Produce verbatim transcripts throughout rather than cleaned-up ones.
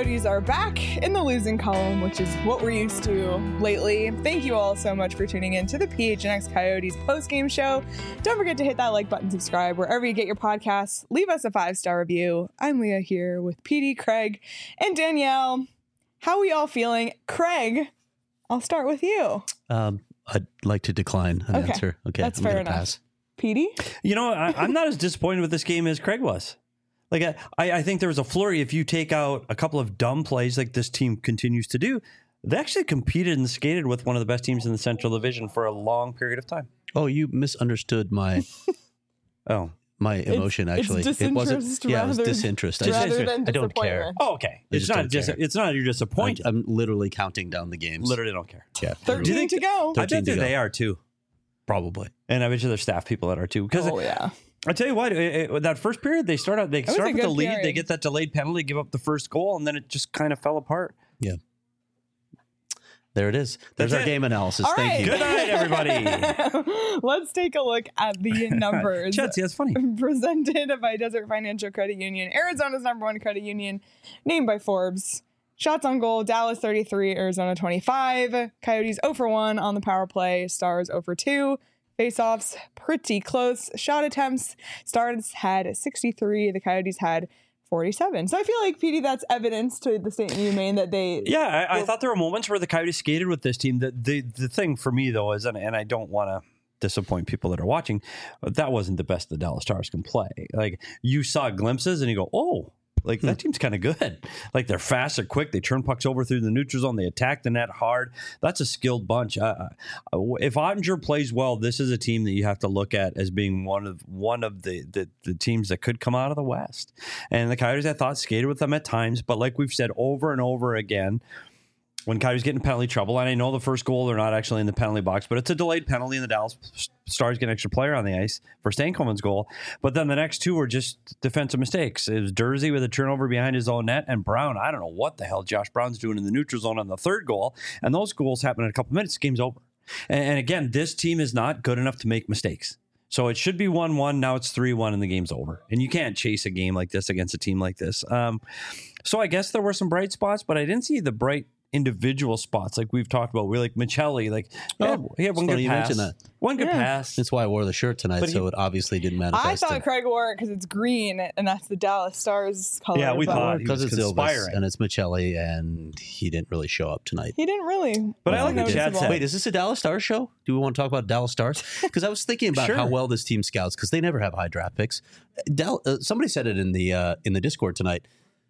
Coyotes are back in the losing column, which is what we're used to lately. Thank you all so much for tuning in to the P H N X Coyotes post-game show. Don't forget to hit that like button, subscribe wherever you get your podcasts. Leave us a five-star review. I'm Leah here with P D, Craig, and Danielle. How are we all feeling? Craig, I'll start with you. Um, I'd like to decline an Okay. answer. Okay, That's I'm fair gonna enough. pass. P D? You know, I, I'm not as disappointed with this game as Craig was. Like, I, I think there was a flurry. If you take out a couple of dumb plays like this team continues to do, they actually competed and skated with one of the best teams in the Central Division for a long period of time. Oh, you misunderstood my Oh, my emotion. It's- actually, it's it wasn't. disinterest Yeah, it was rather- disinterest. I, rather just, than I don't care. disappointment. oh okay. I It's just not don't just. care. It's not you're I, disappointed. I'm literally counting down the games. Literally don't care. Yeah. thirteen literally. to go. I bet thirteen to that go. they are too, Probably. and I bet you there's staff people that are too. Because Oh, yeah. I tell you what, it, it- that first period they start out. They was start a with the good lead. period. They get that delayed penalty, give up the first goal, and then it just kind of fell apart. Yeah. There it is. There's That's our it. game analysis. All Thank right. you. Good night, everybody. Let's take a look at the numbers. Chad, see, that's funny. Presented by Desert Financial Credit Union, Arizona's number one credit union, named by Forbes. Shots on goal, Dallas thirty-three, Arizona twenty-five. Coyotes zero for one on the power play, Stars zero for two. Face-offs, pretty close. Shot attempts, Stars had sixty-three, the Coyotes had forty-seven. So I feel like, P D, that's evidence to the statement you made that they... Yeah, I, I thought there were moments where the Coyotes skated with this team. The the, the thing for me, though, is, and, and I don't want to disappoint people that are watching, but that wasn't the best the Dallas Stars can play. Like, you saw glimpses and you go, oh, like that team's kind of good. Like, they're fast, they're quick, they turn pucks over through the neutral zone, they attack the net hard. That's a skilled bunch. Uh, if Ottinger plays well, this is a team that you have to look at as being one of one of the, the the teams that could come out of the West. And the Coyotes, I thought, skated with them at times, but like we've said over and over again, when Coyotes get in penalty trouble, and I know the first goal, they're not actually in the penalty box, but it's a delayed penalty, and the Dallas Stars get an extra player on the ice for Stankoven's goal. But then the next two were just defensive mistakes. It was Dursey with a turnover behind his own net, and Brown, I don't know what the hell Josh Brown's doing in the neutral zone on the third goal, and those goals happen in a couple minutes, game's over. And, and again, this team is not good enough to make mistakes. So it should be one one, now it's three one, and the game's over. And you can't chase a game like this against a team like this. Um, so I guess there were some bright spots, but I didn't see the bright individual spots like we've talked about. We're like Michelli, like Oh, yeah, he had one it's funny good you pass. mentioned that. One good Yeah. pass. That's why I wore the shirt tonight, But he- so it obviously didn't I manifest. thought Craig wore it because it's green, and that's the Dallas Stars color. Yeah, we but thought he because was it's Ilves conspiring. and it's Michelli, and he didn't really show up tonight. He didn't really. But I like what what Chad noticeable. said. Wait, is this a Dallas Stars show? Do we want to talk about Dallas Stars? Because I was thinking about Sure. how well this team scouts, because they never have high draft picks. Dal- uh, somebody said it in the uh, in the Discord tonight.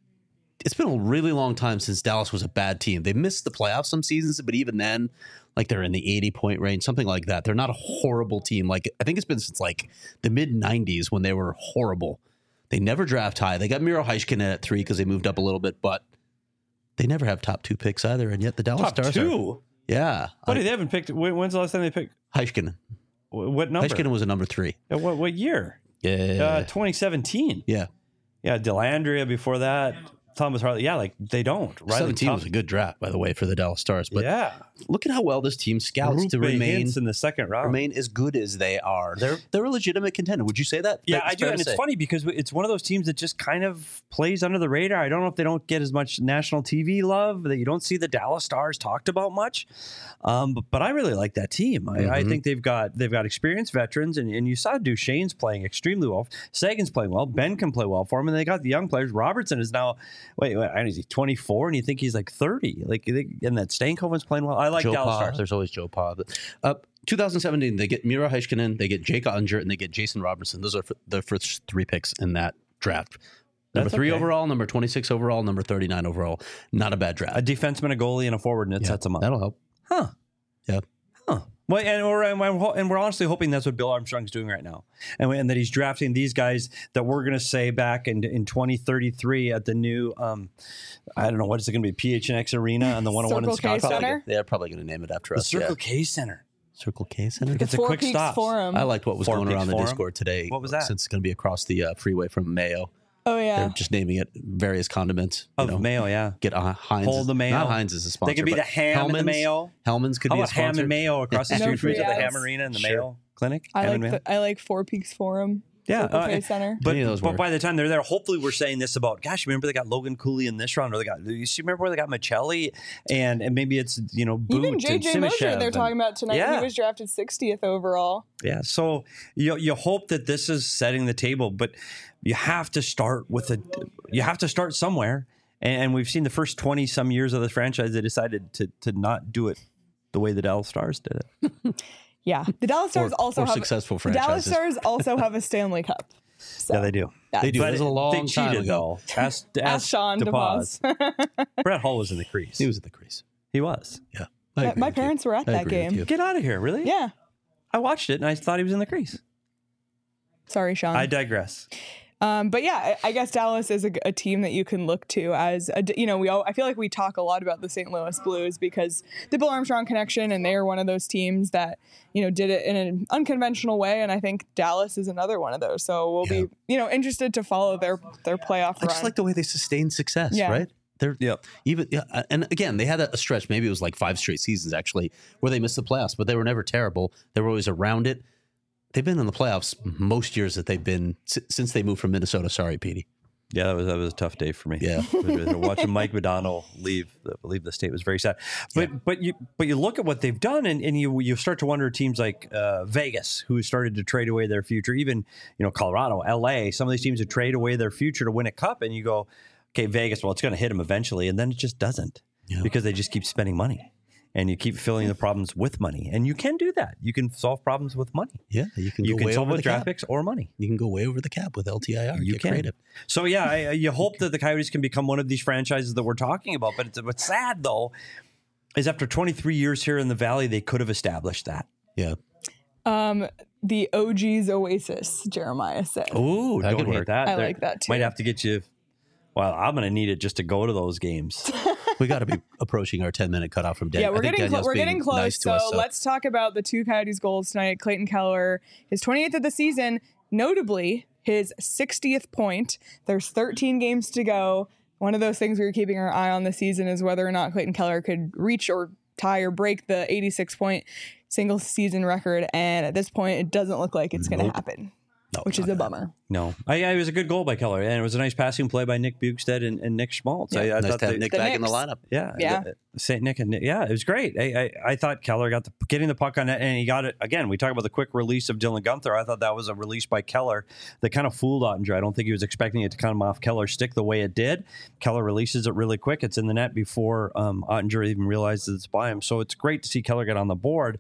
It's been a really long time since Dallas was a bad team. They missed the playoffs some seasons, but even then, like they're in the eighty point range, something like that. They're not a horrible team. Like I think it's been since like the mid nineties when they were horrible. They never draft high. They got Miro Heiskanen at three because they moved up a little bit, but they never have top two picks either. And yet the Dallas Top Stars are. two. Yeah. Buddy, I- they haven't picked. when- When's the last time they picked? Heiskanen. wh- What number? Heiskanen was a number three. Uh, What, what year? Yeah. Uh, twenty seventeen. yeah. Yeah, Delandria before that. Thomas Harley. Yeah, like they don't. Riley seventeen Tom- was a good draft, by the way, for the Dallas Stars. But yeah. look at how well this team scouts to Rupe remain Hintz in the second round. remain as good as they are. They're they're a legitimate contender. Would you say that? Yeah, That's I do, fair and to it's say. funny because it's one of those teams that just kind of plays under the radar. I don't know if they don't get as much national T V love, that you don't see the Dallas Stars talked about much. Um, but, but I really like that team. I, I Mhm. think they've got they've got experienced veterans, and, and you saw Duchesne's playing extremely well. Sagan's playing well. Ben can play well for him, and they got the young players. Robertson is now wait, wait I don't know, is he twenty-four, and you think he's like thirty? Like, they, and that Stankoven's playing well. I like Joe Dallas Pa. Stars. There's always Joe Pa. Uh, twenty seventeen, they get Miro Heiskanen, they get Jake Ottinger, and they get Jason Robertson. Those are f- the first three picks in that draft. Number That's three okay. overall, number twenty-six overall, number thirty-nine overall. Not a bad draft. A defenseman, a goalie, and a forward, and it Yeah, sets them up. That'll help. Huh. Yeah. Huh. Well, and we're and we're, and we're honestly hoping that's what Bill Armstrong's doing right now, and, and that he's drafting these guys that we're going to say back in in twenty thirty-three at the new, um, I don't know, what is it going to be, P H N X Arena and the one oh one in Circle K Scottsdale. Center? They're probably going to name it after The us. Circle yeah. K Center. Circle K Center. It's a Four quick Peaks stop. Forum. I liked what was Four going Peaks around the Forum? Discord today. What was that? Since it's going to be across the uh, freeway from Mayo. Oh, yeah. They're just naming it various condiments. you Of know. Mayo, yeah. Get uh, Heinz. Hold the Mayo. Not Heinz is a sponsor. They could be but the ham and the Hellman's- Mayo. Hellman's could How be a about ham sponsor. and Mayo across the No street from free each other, the ads. Ham Arena and the Sure. Mayo Clinic? I Ham like and Mayo? the, I like Four Peaks Forum. Yeah, Circle K uh, Center. But, Any of those but work. by the time they're there, hopefully we're saying this about, gosh, remember they got Logan Cooley in this round, or they got, you see, remember where they got Michelli, and and maybe it's, you know, Boot Even J and J Mosier Simashev they're and- talking about tonight. Yeah. He was drafted sixtieth overall. Yeah, so you you hope that this is setting the table, but you have to start with a, you have to start somewhere, and we've seen the first twenty some years of this franchise they decided to to not do it the way the Dallas Stars did it. Yeah. The Dallas Stars Or- also or have successful the Dallas franchises. Stars also have a Stanley Cup. So, Yeah, they do. yeah. They do. But It was a long they time cheated ago. though. Ask, ask, Ask Sean DePaz. DePaz. Brett Hull was in the crease. He was at the crease. He was. Yeah. I My- agree my with you. parents were at I that agree with game. you. Get out of here, really? Yeah. I watched it and I thought he was in the crease. Sorry, Sean. I digress. Um, but yeah, I I guess Dallas is a, a team that you can look to as a, you know, we all, I feel like we talk a lot about the Saint Louis Blues because the Bill Armstrong connection, and they are one of those teams that, you know, did it in an unconventional way. And I think Dallas is another one of those. So we'll Yeah. be, you know, interested to follow their, their playoff I run. just like the way they sustain success, Yeah. right? They're Yep. even yeah, and again they had a, a stretch. Maybe it was like five straight seasons actually where they missed the playoffs, but they were never terrible. They were always around it. They've been in the playoffs most years that they've been si- since they moved from Minnesota. Sorry, Petey. Yeah, that was that was a tough day for me. Yeah. Watching Mike Modano leave the, leave the state was very sad. But Yeah. but you but you look at what they've done, and, and you you start to wonder teams like uh, Vegas, who started to trade away their future, even you know Colorado, L A, some of these teams that trade away their future to win a cup, and you go, okay, Vegas, well, it's going to hit them eventually, and then it just doesn't Yeah. because they just keep spending money. And you keep filling the problems with money, and you can do that. You can solve problems with money. Yeah, you can You go can way solve over with the draft cap. picks or money. You can go way over the cap with L T I R. You Get can. creative. So yeah, I, you hope that the Coyotes can become one of these franchises that we're talking about. But it's, what's sad though is after twenty-three years here in the Valley, they could have established that. Yeah. um, the O G's Oasis, Jeremiah said. Ooh, That don't could hate work. that. I There- like that too. Might have to get you. Well, I'm going to need it just to go to those games. We got to be approaching our ten minute cutoff from Dan. Yeah, we're I think getting clo- Danielle's we're being getting close. nice to so, us, let's talk about the two Coyotes goals tonight. Clayton Keller, his twenty-eighth of the season, notably his sixtieth point. There's thirteen games to go. One of those things we were keeping our eye on this season is whether or not Clayton Keller could reach or tie or break the eighty-six point single season record. And at this point, it doesn't look like it's going to Nope. happen, No, which not is a that. bummer. No, I, I, it was a good goal by Keller, and it was a nice passing play by Nick Bukestad and, and Nick Schmaltz. I, I Nice thought to have they- Nick The back in the Knicks. lineup. Yeah, Yeah. the- Saint Nick and Nick, yeah, it was great. I, I I thought Keller got the getting the puck on it, and he got it again. We talk about the quick release of Dylan Gunther. I thought that was a release by Keller that kind of fooled Ottinger. I don't think he was expecting it to come off Keller's stick the way it did. Keller releases it really quick. It's in the net before um, Ottinger even realizes it's by him. So it's great to see Keller get on the board.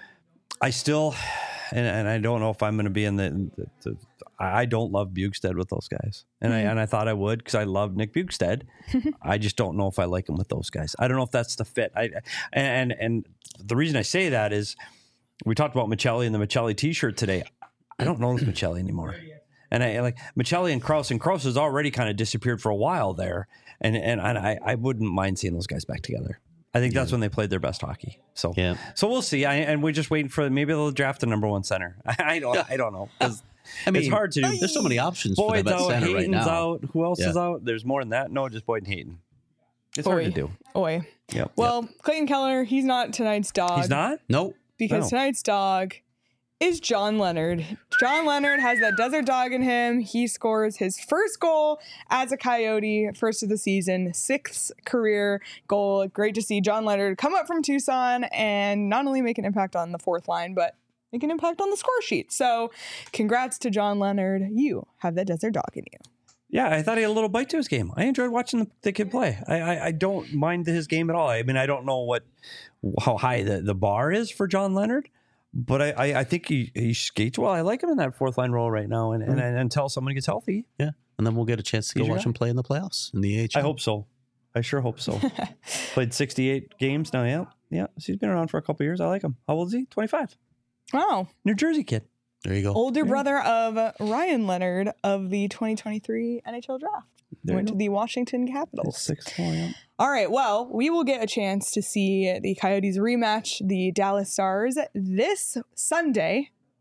I still, and, and I don't know if I'm going to be in the, the, the I don't love Bukestad with those guys, and I and I thought I would because I love Nick Bukestad. I just don't know if I like him with those guys. I don't know if that's the fit. I and and the reason I say that is we talked about Michelli and the Michelli T-shirt today. I don't know this Michelli anymore, and I like Michelli and Krause, and Krause has already kind of disappeared for a while there, and and I I wouldn't mind seeing those guys back together. I think that's when they played their best hockey. So Yeah. so we'll see. I, and we're just waiting for maybe they'll draft a number one center. I don't I don't know. 'Cause I mean, it's hard to do. There's so many options for Boyd's them at out, center Hayton's right now. out. Who else Yeah. is out? There's more than that. No, just Boyd and Hayton. It's hard Oy. to do. Oi. Yep. Well, Clayton Keller, he's not tonight's dog. He's not? Nope. Because No. tonight's dog is John Leonard. John Leonard has that desert dog in him. He scores his first goal as a Coyote, first of the season, sixth career goal. Great to see John Leonard come up from Tucson and not only make an impact on the fourth line, but make an impact on the score sheet. So congrats to John Leonard. You have that desert dog in you. Yeah, I thought he had a little bite to his game. I enjoyed watching the, the kid play. I, I I don't mind his game at all. I mean, I don't know what how high the, the bar is for John Leonard, but I, I, I think he, he skates well. I like him in that fourth line role right now, and, and, and until someone gets healthy, Yeah. And then we'll get a chance to go He's your watch guy. him play in the playoffs in the A H L. I hope so. I sure hope so. Played sixty-eight games now. Yeah, yeah. So he's been around for a couple years. I like him. How old is he? twenty-five. Wow. New Jersey kid. There you go. Older brother of Ryan Leonard of the twenty twenty-three N H L draft. There Went you to go. the Washington Capitals. Six, four, yeah. All right. Well, we will get a chance to see the Coyotes rematch the Dallas Stars this Sunday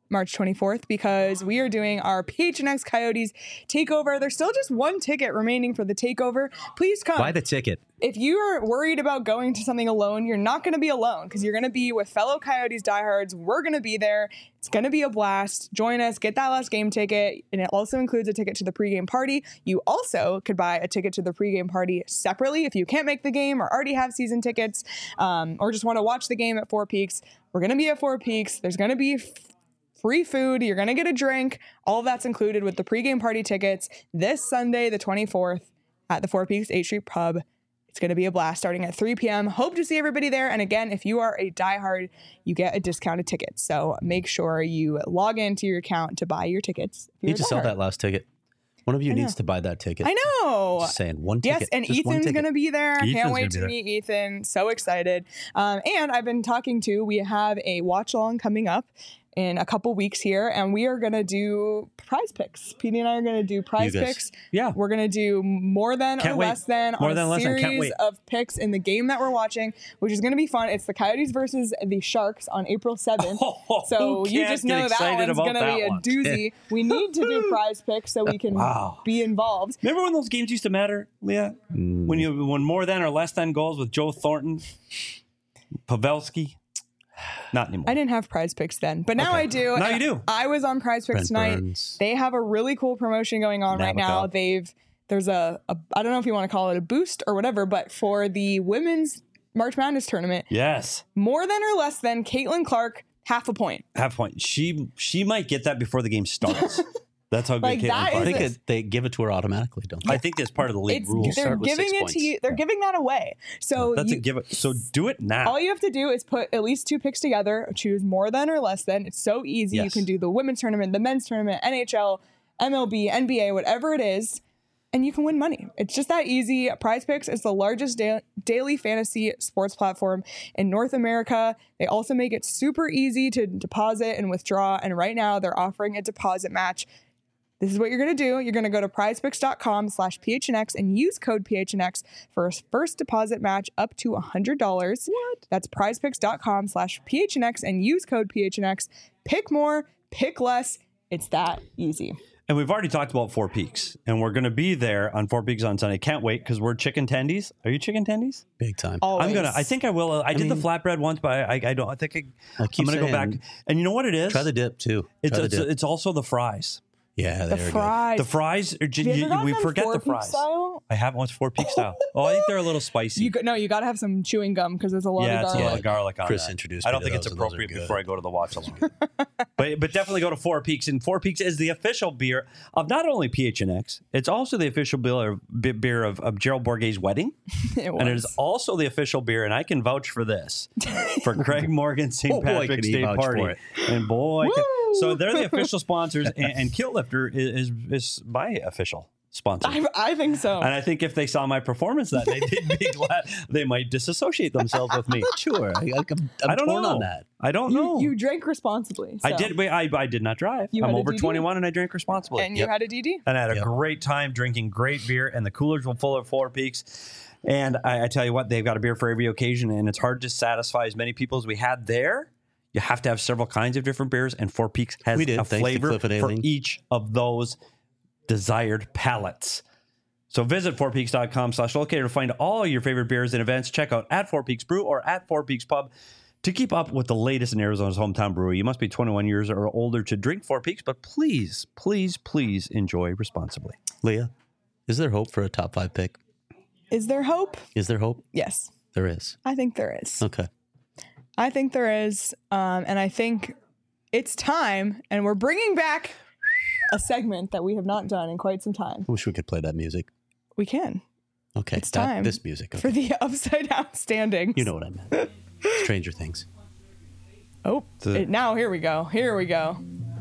March twenty-fourth, because we are doing our P H N X Coyotes takeover. There's still just one ticket remaining for the takeover. Please come. Buy the ticket. If you are worried about going to something alone, you're not going to be alone, because you're going to be with fellow Coyotes diehards. We're going to be there. It's going to be a blast. Join us. Get that last game ticket. And it also includes a ticket to the pregame party. You also could buy a ticket to the pregame party separately if you can't make the game or already have season tickets, um, or just want to watch the game at Four Peaks. We're going to be at Four Peaks. There's going to be f- free food. You're going to get a drink. All of that's included with the pregame party tickets this Sunday, the twenty-fourth, at the Four Peaks eighth Street Pub. It's going to be a blast starting at three p.m. Hope to see everybody there. And again, if you are a diehard, you get a discounted ticket. So make sure you log into your account to buy your tickets. You need to sell that last ticket. One of you I needs know. to buy that ticket. I know. Just saying, one ticket. Yes, and Just one Ethan's ticket. going to be there. Ethan's Can't gonna wait be to there. meet Ethan. So excited. Um, and I've been talking to, we have a watch along coming up in a couple weeks here, and we are going to do prize picks. P D and I are going to do prize You guys. picks. Yeah. We're going to do more than Can't or wait. less than More on than a less than. Can't series wait. of picks in the game that we're watching, which is going to be fun. It's the Coyotes versus the Sharks on April seventh. Oh, So who you can't just get know that excited one's about going to that be a one? doozy. We need to do prize picks so we can Wow. be involved. Remember when those games used to matter, Leah? Mm. When you when more than or less than goals with Joe Thornton, Pavelski? Not anymore. I didn't have prize picks then, but now Okay. I do. Now And you do. I was on prize picks Brent tonight. Burns. They have a really cool promotion going on right now. Navico. They've there's a, a I don't know if you want to call it a boost or whatever, but for the women's March Madness tournament, Yes. more than or less than Caitlin Clark, half a point. Half point. She she might get that before the game starts. That's how good Like, Caitlin that Clark I think is- it, they give it to her automatically, don't they? I think that's part of the league It's rules. they're start with giving six it points. to you. They're giving that away. So That's you, a give it. So do it now. all you have to do is put at least two picks together, choose more than or less than. It's so easy. You Yes. can do the women's tournament, the men's tournament, N H L, M L B, N B A, whatever it is, and you can win money. It's just that easy. Prize Picks is the largest da- daily fantasy sports platform in North America. They also make it super easy to deposit and withdraw. And right now they're offering a deposit match. This is what you're going to do. You're going to go to prizepicks.com slash PHNX and use code P H N X for a first deposit match up to one hundred dollars. What? That's prizepicks.com slash PHNX and use code P H N X. Pick more, pick less. It's that easy. And we've already talked about Four Peaks, and we're going to be there on Four Peaks on Sunday. Can't wait because we're chicken tendies. Are you chicken tendies? Big time. Always. I'm gonna. I think I will. I, did mean- the flatbread once, but I, I, I don't. I think I, I keep I'm gonna go saying, back. And you know what it is? Try the dip too. It's Try the it's, dip. it's also the fries. yeah, The they're good. fries. The fries. Are, Have you you- ever gotten we them forget Four the Peak fries. style? I haven't once Four Peak style. Oh, I think they're a little spicy. You go, no, you got to have some chewing gum because there's a lot yeah, of it's a garlic. lot of garlic on Chris that. introduced I me don't to think it's those, and those are appropriate good. before I go to the watch along. but but definitely go to Four Peaks, and Four Peaks is the official beer of not only P H N X, it's also the official beer of, beer of, of Gerald Bourguet's wedding, It and it was. is also the official beer, and I can vouch for this for Craig Morgan's Saint Oh, boy, Patrick's can he Day vouch party, for it. and boy, can, Woo! so they're the official sponsors, and, and Kilt Lifter is, is is my official sponsor. I, I think so. And I think if they saw my performance that day, they'd be glad. They might disassociate themselves with me. Sure, I, I'm, I'm I don't torn know. on that. I don't you, know. you drank responsibly. I so- did. Wait, I, I did not drive. You I'm had a over D D? twenty-one and I drank responsibly. And you had a D D? and I had a Yep. great time drinking great beer, and the coolers were full of Four Peaks. And I, I tell you what, they've got a beer for every occasion, and it's hard to satisfy as many people as we had there. You have to have several kinds of different beers, and Four Peaks has We did, a thanks to flavor Cliff and for Aileen. each of those desired palates. So visit fourpeaks.com slash locator to find all your favorite beers and events. Check out at Four Peaks Brew or at Four Peaks Pub to keep up with the latest in Arizona's hometown brewery. You must be twenty-one years or older to drink Four Peaks, but please, please, please enjoy responsibly. Leah, is there hope for a top five pick? Is there hope? Is there hope? Yes, There is. I think there is. Okay. I think there is. Um, and I think it's time, and we're bringing back a segment that we have not done in quite some time. I wish we could play that music. We can. Okay. It's that- time This music. For Okay. the upside down standings. You know what I meant. Stranger Things. Oh, The- it- now here we go. Here we go.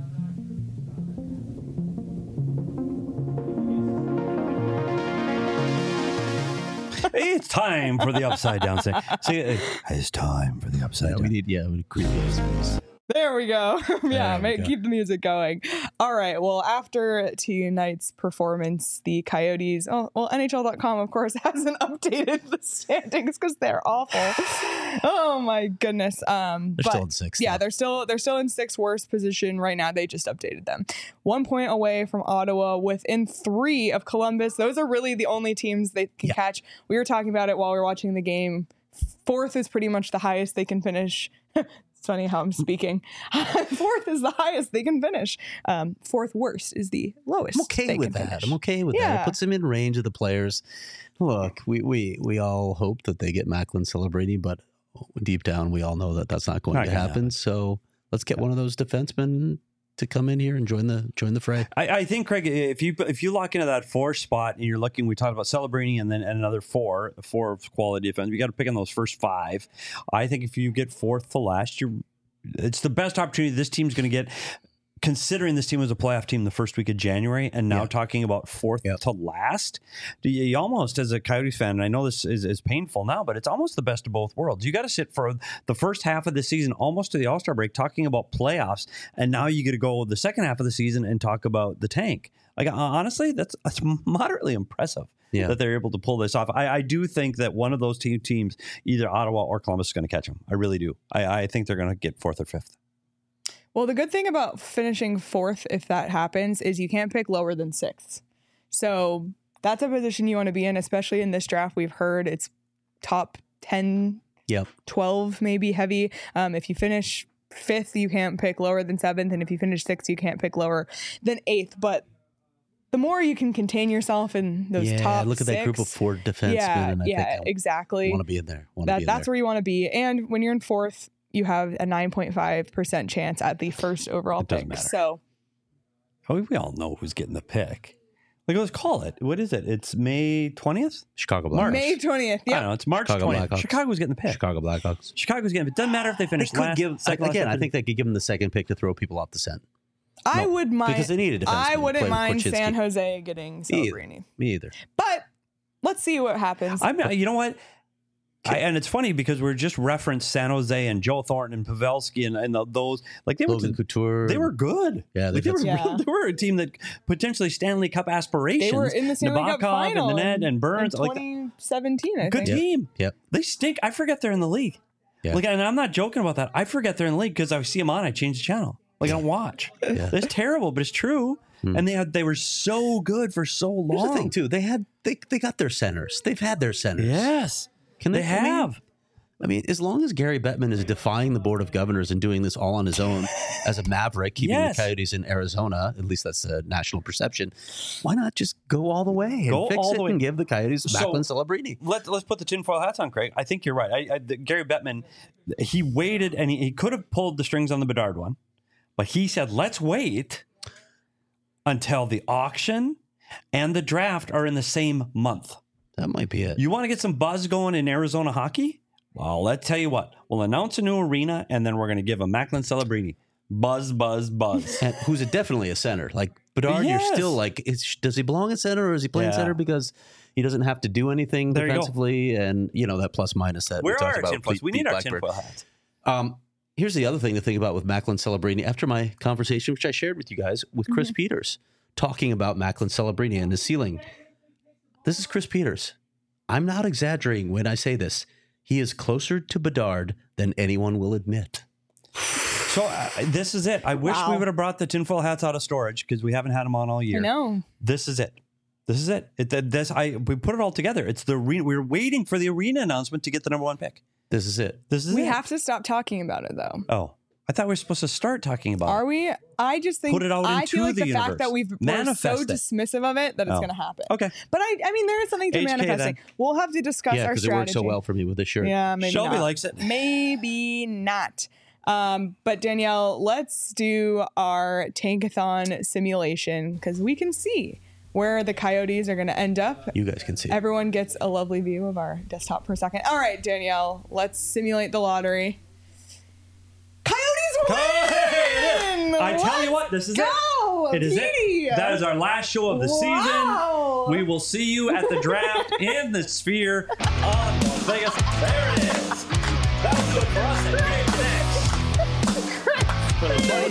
It's time for the upside down. Say, say it. It's time for the upside Yeah, down. we need, yeah, we need creepy voice. There we go. yeah, we make, go. keep the music going. All right. Well, after tonight's performance, the Coyotes, oh, well, N H L dot com, of course, hasn't updated the standings because they're awful. Oh, my goodness. Um, They're but, still in sixth. Yeah, though. they're still they're still in sixth worst position right now. They just updated them. One point away from Ottawa, within three of Columbus. Those are really the only teams they can Yeah. catch. We were talking about it while we were watching the game. Fourth is pretty much the highest they can finish. It's funny how I'm speaking. Fourth is the highest they can finish. Um, fourth worst is the lowest. I'm okay they with can that. finish. I'm okay with that. Yeah. It puts them in range of the players. Look, we we we all hope that they get Macklin Celebrini, but deep down we all know that that's not going Not to gonna happen. happen. So let's get one of those defensemen to come in here and join the join the fray. I, I think, Craig, if you if you lock into that four spot and you're looking, we talked about Celebrini and then and another four, four of quality defense. You got to pick on those first five. I think if you get fourth to last, you're it's the best opportunity this team's going to get. Considering this team was a playoff team the first week of January, and now Yeah. talking about fourth Yep. to last, do you, you almost, as a Coyotes fan, and I know this is, is painful now, but it's almost the best of both worlds. You got to sit for the first half of the season, almost to the All-Star break, talking about playoffs, and now you get to go the second half of the season and talk about the tank. Like, honestly, that's, that's moderately impressive. Yeah. That they're able to pull this off. I, I do think that one of those two teams, either Ottawa or Columbus, is going to catch them. I really do. I, I think they're going to get fourth or fifth. Well, the good thing about finishing fourth, if that happens, is you can't pick lower than sixth. So that's a position you want to be in, especially in this draft. We've heard it's top ten, Yep. twelve, maybe heavy. Um, if you finish fifth, you can't pick lower than seventh. And if you finish sixth, you can't pick lower than eighth. But the more you can contain yourself in those yeah, top look at six, that group of four defensemen, yeah, and I yeah, think exactly. I want to be in there. Want to That, be in that's there. where you want to be. And when you're in fourth, you have a nine point five percent chance at the first overall It doesn't pick. matter. So Oh, we all know who's getting the pick. Like, let's call it. What is it? It's May twentieth? Chicago March. Blackhawks. May twentieth. I Yeah. don't know. It's March Chicago twentieth. Blackhawks. Chicago's getting the pick. Chicago Blackhawks. Chicago's getting it. It doesn't matter if they They finish could last. give second, last, again. I second. think they could give them the second pick to throw people off the scent I No, would mind. because they need a defenseman. I to wouldn't play with mind Korchinski. San Jose getting Me either. Celebrini. Me either. But let's see what happens. I'm, you know what? I, and it's funny because we're just referenced San Jose and Joe Thornton and Pavelski and, and the, those like they Logan were Couture. they were good. Yeah, Like, they, they've were, had some- Yeah. they were a team that potentially Stanley Cup aspirations. they were in the Stanley Cup Nabokov final and the net in- and Burns. in Like, twenty seventeen. I good think. team. Yep. They stink. I forget they're in the league. Yeah. Like, and I'm not joking about that. I forget they're in the league because I see them on. I change the channel. Like, I don't watch. Yeah. It's terrible, but it's true. Hmm. And they had they were so good for so long. Here's the thing too. They had they they got their centers. They've had their centers. Yes, Can they I mean- have. I mean, as long as Gary Bettman is defying the board of governors and doing this all on his own as a maverick, keeping Yes. the Coyotes in Arizona, at least that's the national perception, why not just go all the way and Go fix all it the way. and give the Coyotes So- Macklin Celebrini? Let, let's put the tinfoil hats on, Craig. I think you're right. I, I, the, Gary Bettman, he waited and he, he could have pulled the strings on the Bedard one, but he said, let's wait until the auction and the draft are in the same month. That might be it. You want to get some buzz going in Arizona hockey? Well, let's tell you what. We'll announce a new arena, and then we're going to give a Macklin Celebrini. Buzz, buzz, buzz. And who's a, definitely a center. Like Bedard, Yes. you're still like, is, does he belong at center or is he playing Yeah. center because he doesn't have to do anything There you go. defensively? And, you know, that plus minus that Where we are talked our about. tinfoils? Pete- We Pete need our Blackburn. tinfoil hats. Um, here's the other thing to think about with Macklin Celebrini. After my conversation, which I shared with you guys, with Chris Peters, talking about Macklin Celebrini and his ceiling. This is Chris Peters. I'm not exaggerating when I say this. He is closer to Bedard than anyone will admit. So uh, this is it. I wish we Wow. would have brought the tinfoil hats out of storage because we haven't had them on all year. I know. This is it. This is it. it th- this I we put it all together. It's the arena. We were waiting for the arena announcement to get the number one pick. This is it. This is We it. have to stop talking about it, though. Oh, I thought we were supposed to start talking about Are it. we? I just think Put it out I into feel like the the, fact universe. that we've we're so Manifest it. dismissive of it that it's Oh. going to happen. Okay. But I, I mean, there is something to H K manifesting. then. We'll have to discuss Yeah, our because it strategy. works so well for me with this shirt. Yeah, maybe Shelby not. likes it. Maybe not. Um, but Danielle, let's do our tankathon simulation because we can see where the Coyotes are going to end up. You guys can see. Everyone gets a lovely view of our desktop per second. All right, Danielle, let's simulate the lottery. Coyotes win! Hey, I tell you what, this is Go, it. It is Petey! it. That is our last show of the Wow. season. We will see you at the draft in the Sphere on Las Vegas. There it is. That was good for us. And next.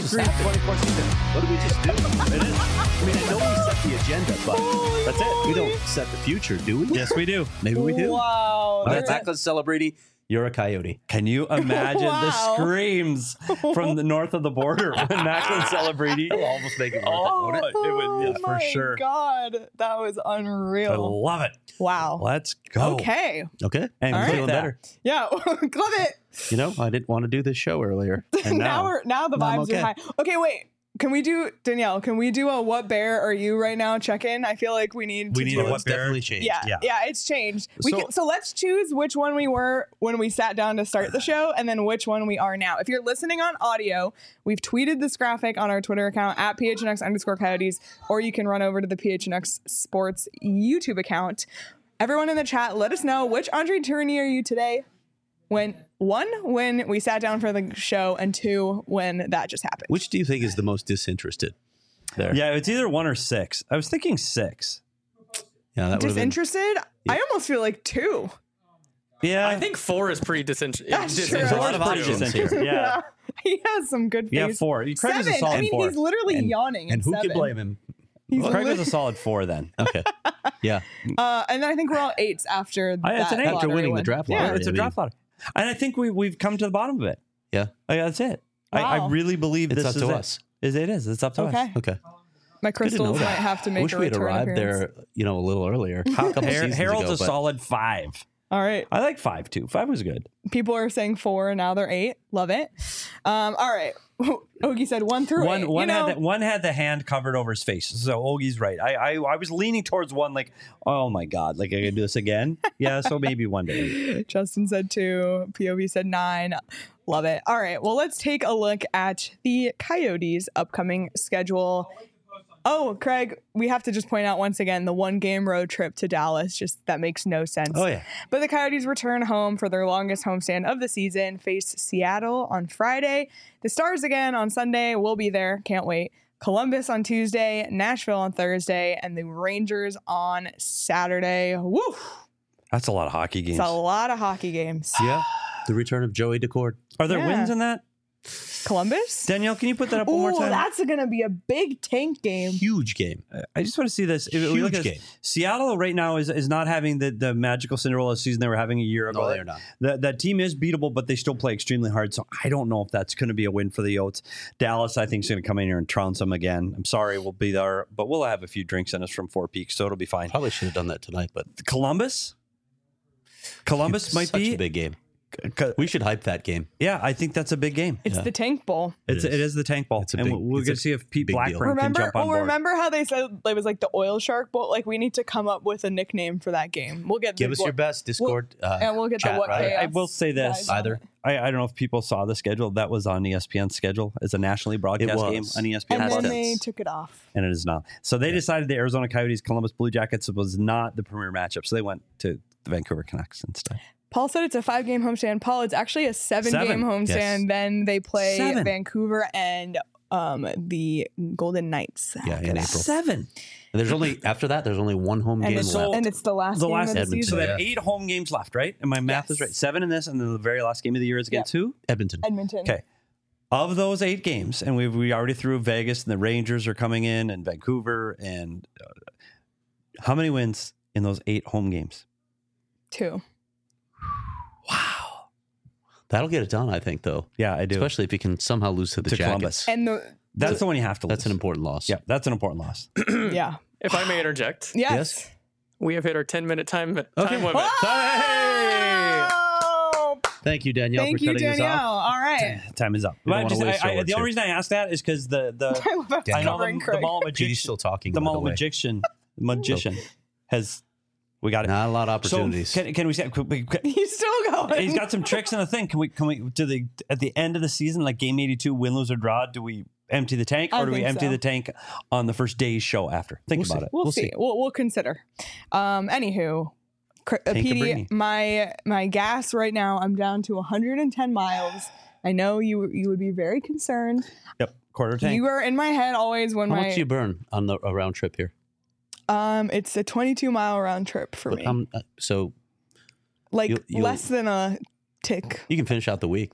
Screams twenty-four season. What did we just do? It is. I mean, I know we set the agenda, but Holy That's it. we moly. don't set the future, do we? Yes, we do. Maybe we do. Wow. All right, That's- back on Celebrity. You're a coyote. Can you imagine the Wow. screams from the north of the border when Macklin celebrating? It'll almost make it worth Oh, it, won't it? it would, yeah, Oh for my sure. God, that was I unreal. love it. Wow. Let's go. Okay. Okay. And All click right. Feeling that. better. Yeah. Love it. You know, I didn't want to do this show earlier. And now, now, we're now the now I'm vibes okay. are high. Okay, wait. Can we do Danielle? Can we do a what bear are you right now check in? I feel like we need We to need do a Well, what it's bear? definitely changed. Yeah, Yeah. yeah, it's changed. We So- can, so let's choose which one we were when we sat down to start the show, and then which one we are now. If you're listening on audio, we've tweeted this graphic on our Twitter account at P H N X underscore Coyotes, or you can run over to the P H N X Sports YouTube account. Everyone in the chat, let us know which Andre Tourigny are you today. When one, when we sat down for the show, and two, when that just happened. Which do you think is the most disinterested? There. yeah, it's either one or six. I was thinking six. Yeah, that would have been. Disinterested? I almost feel like two. Yeah, I think four is pretty disinterested. That's true. There's a lot of options here. Yeah, He has some good yeah, face. four. Craig was a Seven. solid I mean, four. he's literally And- yawning. And at who seven. can blame him? He's Craig was a lit- solid four then. Okay. Yeah. uh, and then I think we're all eights after I- it's that an eight. After lottery winning the win. draft Yeah. lottery. It's a I draft mean- lottery, and I think we we've come to the bottom of it. Yeah. Like, that's it. I, I Wow. really believe It's this up is to it. us. Is it is. It's up to Okay. us. Okay. My Good to know crystals might that. have to I make wish a we had return arrived appearance. there, you know, a little earlier. A couple Har- seasons Harold's ago, a but solid five. All right. I like five too. Five was good. People are saying four, and now they're eight. Love it. Um, all right. Ogie said one through One eight. one you know, had the, one had the hand covered over his face. So Ogie's right. I, I I was leaning towards one, like, oh my god, like I gotta do this again. Yeah, so maybe one day. Justin said two. P O V said nine. Love it. All right. Well, let's take a look at the Coyotes' upcoming schedule. Oh, Craig, we have to just point out once again the one game road trip to Dallas. Just that makes no sense. Oh yeah. But the Coyotes return home for their longest homestand of the season, face Seattle on Friday. The Stars again on Sunday. We'll be there. Can't wait. Columbus on Tuesday, Nashville on Thursday, and the Rangers on Saturday. Woo! That's a lot of hockey games. It's a lot of hockey games. yeah, the return of Joey Decord. Are there Yeah. wins in that? Columbus? Danielle, can you put that up one more Ooh, time? that's going to be a big tank game. Huge game. I just want to see this. If we Huge look at game. Seattle right now is, is not having the, the magical Cinderella season they were having a year ago. No, they are not. That that team is beatable, but they still play extremely hard. So I don't know if that's going to be a win for the Yotes. Dallas, I think, is going to come in here and trounce them again. I'm sorry, we'll be there, but we'll have a few drinks in us from Four Peaks, so it'll be fine. Probably should have done that tonight, but Columbus, Columbus might such be a big game. c- We should hype that game. Yeah, I think that's a big game. It's Yeah. the Tank Bowl. It's It it is. is the Tank Bowl, It's a and big- we're it's going a to see if Pete big deal. Blackburn Remember, can jump on oh, board. remember how they said it was like the oil shark bowl? Like we need to come up with a nickname for that game. We'll get Give the, us your best Discord. uh, and we'll get chat, the what right? chaos I will say this. guys on Either. it. I, I don't know if people saw the schedule. That was on E S P N's schedule as a nationally broadcast was. game on E S P N And Plus, then tense. they took it off. and it is not. So they decided the Arizona Coyotes Columbus Blue Jackets was not the premier matchup, so they went to the Vancouver Canucks instead. Paul said it's a five game homestand. Paul, it's actually a seven, Seven. game homestand. Yes. Then they play Seven. Vancouver and um, the Golden Knights. Yeah, after in that. April. Seven. And there's only after that. There's only one home And game it's, left. and it's the last The game last of the Edmonton, So season. they have Yeah. eight home games left, right? And my math is Yes. right. Seven in this, and then the very last game of the year is against who? Edmonton. Edmonton. Okay. Of those eight games, and we we already threw Vegas, and the Rangers are coming in, and Vancouver, and uh, how many wins in those eight home games? Two. Wow. That'll get it done, I think, though. Yeah, I do. Especially if you can somehow lose to the To Jackets. Columbus. And the That's the one you have to lose. That's an important loss. Yeah, that's an important loss. yeah. If I may interject, Yes. Yes. we have hit our ten minute time, time Okay. limit. Oh! Thank you, Danielle, Thank for you, cutting Danielle. this off. All right. Time is up. We don't But wanna just- waste I- our I- words the only here. reason I asked that is because the the I love how I know covering the, Craig. the mall Petey's magician, still talking. the by the mall way. magician, magician has we got it. Not a lot of So opportunities. can, can we say? Can we, can, He's still going. he's got some tricks in the thing. Can we? Can we? Do the at the end of the season, like game eighty-two, win, lose, or draw? Do we empty the tank, I or do we think empty so. the tank on the first day's show after? Think We'll about see. it. We'll, We'll see. see. We'll we'll consider. Um. Anywho, Cr- uh, Tank of P D, Brittany. my my gas right now. I'm down to one hundred ten miles. I know you you would be very concerned. Yep, quarter tank. You are in my head always when How my much do you burn on the a round trip here? um. It's a twenty-two mile round trip for But me. how m- uh, so like you'll- you'll- less than a tick. you can finish out the week then.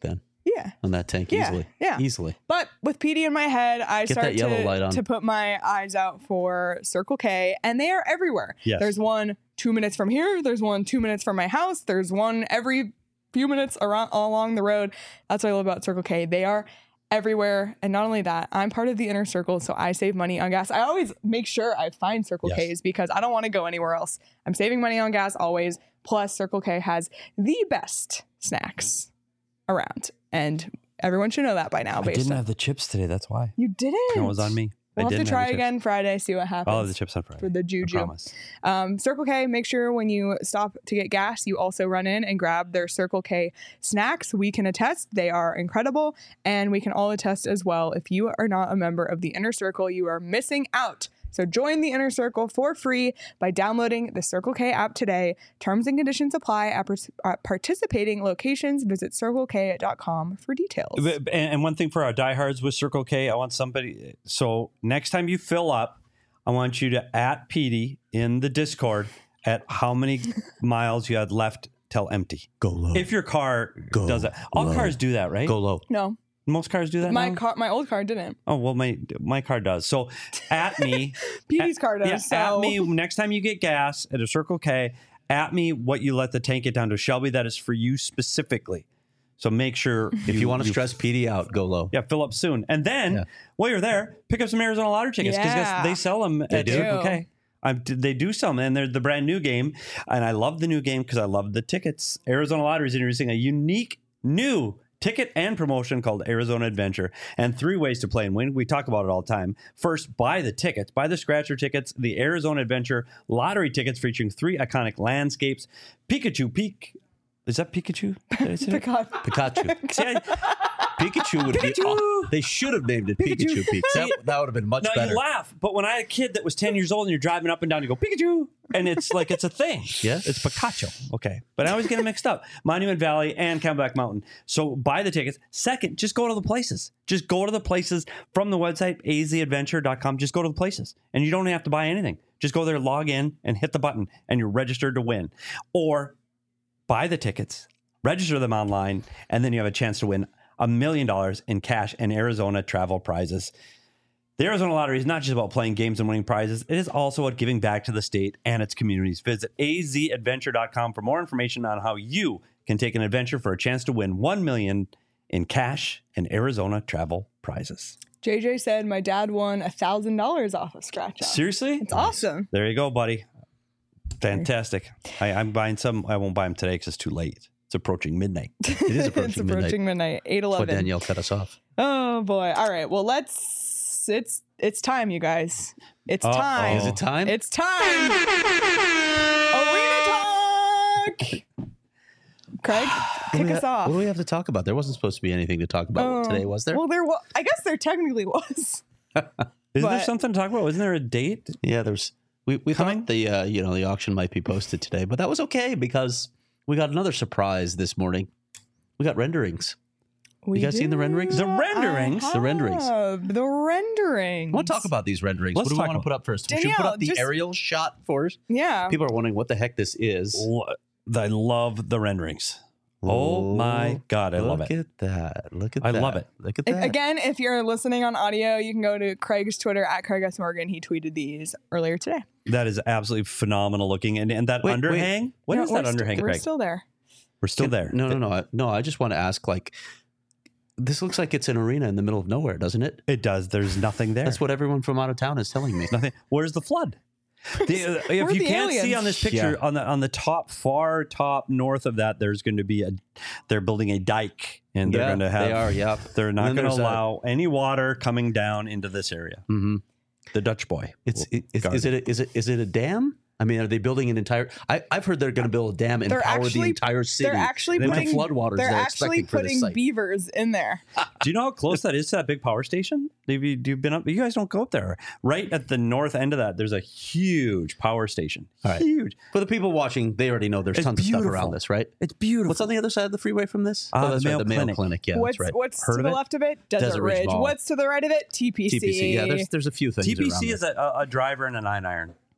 Yeah. on that tank Yeah, easily. yeah. Easily. But with P D in my head, I Get start that yellow to, light on. to put my eyes out for Circle K, and they are everywhere. Yes. There's one two minutes from here. There's one two minutes from my house. There's one every few minutes around along the road. That's what I love about Circle K. They are everywhere. And not only that, I'm part of the inner circle, so I save money on gas. I always make sure I find Circle Yes. K's because I don't want to go anywhere else. I'm saving money on gas always. Plus, Circle K has the best snacks around. And everyone should know that by now. I Based didn't on have the chips today. That's why. you didn't. It was on me. We'll I have to didn't try have the chips. again Friday, see what happens. I'll have the chips on Friday. for the I juju. promise. Um, Circle K, make sure when you stop to get gas, you also run in and grab their Circle K snacks. We can attest they are incredible, and we can all attest as well. If you are not a member of the Inner Circle, you are missing out. So join the Inner Circle for free by downloading the Circle K app today. Terms and conditions apply at, par- at participating locations. Visit circle k dot com for details. But- And and one thing for our diehards with Circle K, I want somebody. So next time you fill up, I want you to at Petey in the Discord at how many miles you had left till empty. Go low. If your car Go does that, all low. cars do that, right? Go low. No, Most cars do that. my now? car, my old car didn't. Oh well, my my car does. So at me, Petey's car does. yeah, so. at me next time you get gas at a Circle K. At me what you let the tank get down to. Shelby, that is for you specifically. So make sure If you, want to stress P D out, go low. Yeah, fill up soon. And then Yeah. while you're there, pick up some Arizona Lottery tickets because Yeah. they sell them at do. Circle K. I'm, they do sell them, and they're the brand new game. And I love the new game because I love the tickets. Arizona Lottery is introducing a unique new ticket and promotion called Arizona Adventure, and three ways to play and win. We talk about it all the time. First, buy the tickets, buy the scratcher tickets, the Arizona Adventure lottery tickets featuring three iconic landscapes. Pikachu Peak. Is that Pikachu? Did I say that? God. Pikachu. See, I- Pikachu would be. Pikachu! Oh, they should have named it Pikachu, Pikachu. Peak. That, that would have been much Now better. you laugh, but when I had a kid that was ten years old and you're driving up and down, you go Pikachu, and it's like it's a thing. Yeah. it's Pikachu. Okay, but I always get it mixed up. Monument Valley and Camelback Mountain. So buy the tickets. Second, just go to the places. Just go to the places from the website a z adventure dot com. Just go to the places, and you don't have to buy anything. Just go there, log in, and hit the button, and you're registered to win. Or buy the tickets, register them online, and then you have a chance to win a million dollars in cash and Arizona travel prizes. The Arizona Lottery is not just about playing games and winning prizes. It is also about giving back to the state and its communities. Visit a z adventure dot com for more information on how you can take an adventure for a chance to win one million dollars in cash and Arizona travel prizes. J J said my dad won one thousand dollars off of Scratch Off. Seriously? It's awesome. There you go, buddy. Fantastic. I, I'm buying some. I won't buy them today because it's too late. It's approaching midnight. It is approaching it's approaching midnight. eight That's why eleven. Danielle cut us off. Oh boy. All right. Well, let's it's it's time, you guys. It's Uh-oh. time. Is it time? It's time. Arena talk. Craig, What do kick we us ha- off. What do we have to talk about? There wasn't supposed to be anything to talk about Oh, today, was there? Well, there was. I guess there technically was. Isn't there But- something to talk about? Isn't there a date? Yeah, there's. We we Coming? thought the uh, you know the auction might be posted today, but that was okay because we got another surprise this morning. We got renderings. We guys seen the renderings? The renderings? The renderings. have The renderings. I want to talk about these renderings. Let's what do we talk want to about- put up first? Should we put Danielle, up the just- aerial shot first? Yeah. People are wondering what the heck this is. Lo- I love the renderings. Oh my God, I love Look it. at that. Look at I that. love it. Look at If- that. Again, if you're listening on audio, you can go to Craig's Twitter at Craig S. Morgan. He tweeted these earlier today. That is absolutely phenomenal looking. And and that Wait, wait. underhang? What No, is we're that st- underhang, We're Craig? still there. We're still there. No, no, no. I, no, I just want to ask like, this looks like it's an arena in the middle of nowhere, doesn't it? It does. There's nothing there. That's what everyone from out of town is telling me. Nothing. Where's the flood? The, uh, Where if are you the can't see aliens? on this picture, Yeah. on the on the top, far top north of that, there's going to be a. They're building a dike, and they're Yeah, going to have. They are, yeah. They're not And then going to there's a- allow any water coming down into this area. Mm-hmm. The Dutch boy. It's will it, is, guard is it a, is it is it a dam? I mean, are they building an entire? I, I've heard they're going to build a dam and They're power the actually- entire city. They're actually with putting the floodwaters They're they're actually expecting for this putting site. beavers in there. Do you know how close that is to that big power station? Have you, you've been up? You guys don't go up there. Right at the north end of that, there's a huge power station. All right. Huge. For the people watching, they already know there's It's tons of stuff beautiful. around this, right? It's beautiful. What's on the other side of the freeway from this? Uh, oh, that's the right, Mayo the Mayo Clinic. Clinic. Yeah, what's that's right. what's Heard to of the it? left of it? Desert, Desert Ridge Ridge. Mall. What's to the right of it? T P C. T P C. Yeah, there's there's a few things. T P around C there. is a, a driver and a nine iron.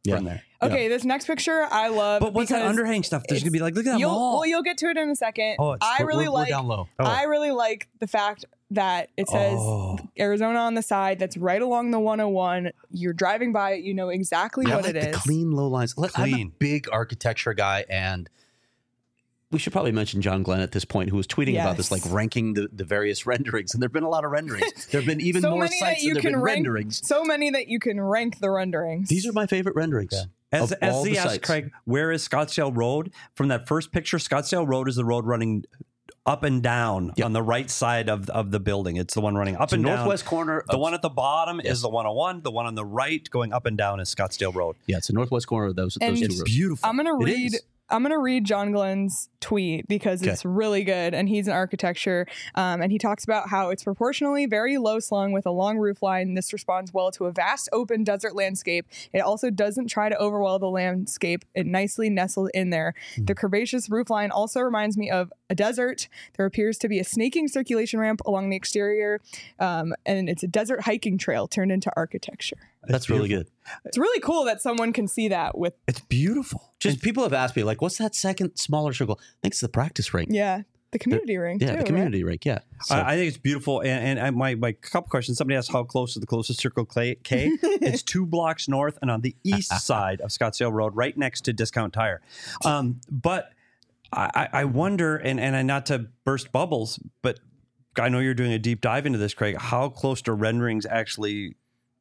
Yeah. from there. Okay, this next picture I love. But what's that because underhang stuff? There's gonna be like, look at that You'll, wall. well, you'll get to it in a second. Oh, it's- I We're- really we're, like. we're down low. Oh. I really like the fact that it says Oh. Arizona on the side. That's right along the one oh one. You're driving by it. You know exactly I what like it the is. clean low lines. Look, I'm a Clean. big architecture guy, and we should probably mention John Glenn at this point, who was tweeting about this, like Yes. ranking the, the various renderings. And there have been a lot of renderings. There have been even so more many that sites you than there have can been rank. renderings. So many that you can rank the renderings. These are my favorite renderings. As, of as all he the asked sites. Craig, where is Scottsdale Road? From that first picture, Scottsdale Road is the road running up and down Yep. on the right side of, of the building. It's the one running up So and northwest down. corner. The of- one at the bottom Yes. is the one oh one. The one on the right going up and down is Scottsdale Road. Yeah, it's the northwest corner of those, And those two it's roads. Beautiful. I'm gonna It read. is. I'm gonna read John Glenn's tweet because Okay. it's really good, and he's an architecture, um, and he talks about how it's proportionally very low slung with a long roof line. This responds well to a vast open desert landscape. It also doesn't try to overwhelm the landscape. It nicely nestled in there. Hmm. The curvaceous roof line also reminds me of a desert. There appears to be a snaking circulation ramp along the exterior, um, and it's a desert hiking trail turned into architecture. That's really good. It's really cool that someone can see that with It's beautiful. Just people have asked me, like, what's that second smaller circle? I think it's the practice rink. yeah the community ring. Yeah, too, the community rink. Yeah. So, I, I think it's beautiful. And, and I, my, my couple questions. Somebody asked how close to the closest Circle K. K. It's two blocks north and on the east side of Scottsdale Road, right next to Discount Tire. Um, but I, I wonder, and, and I- not to burst bubbles, but I know you're doing a deep dive into this, Craig. How close do renderings actually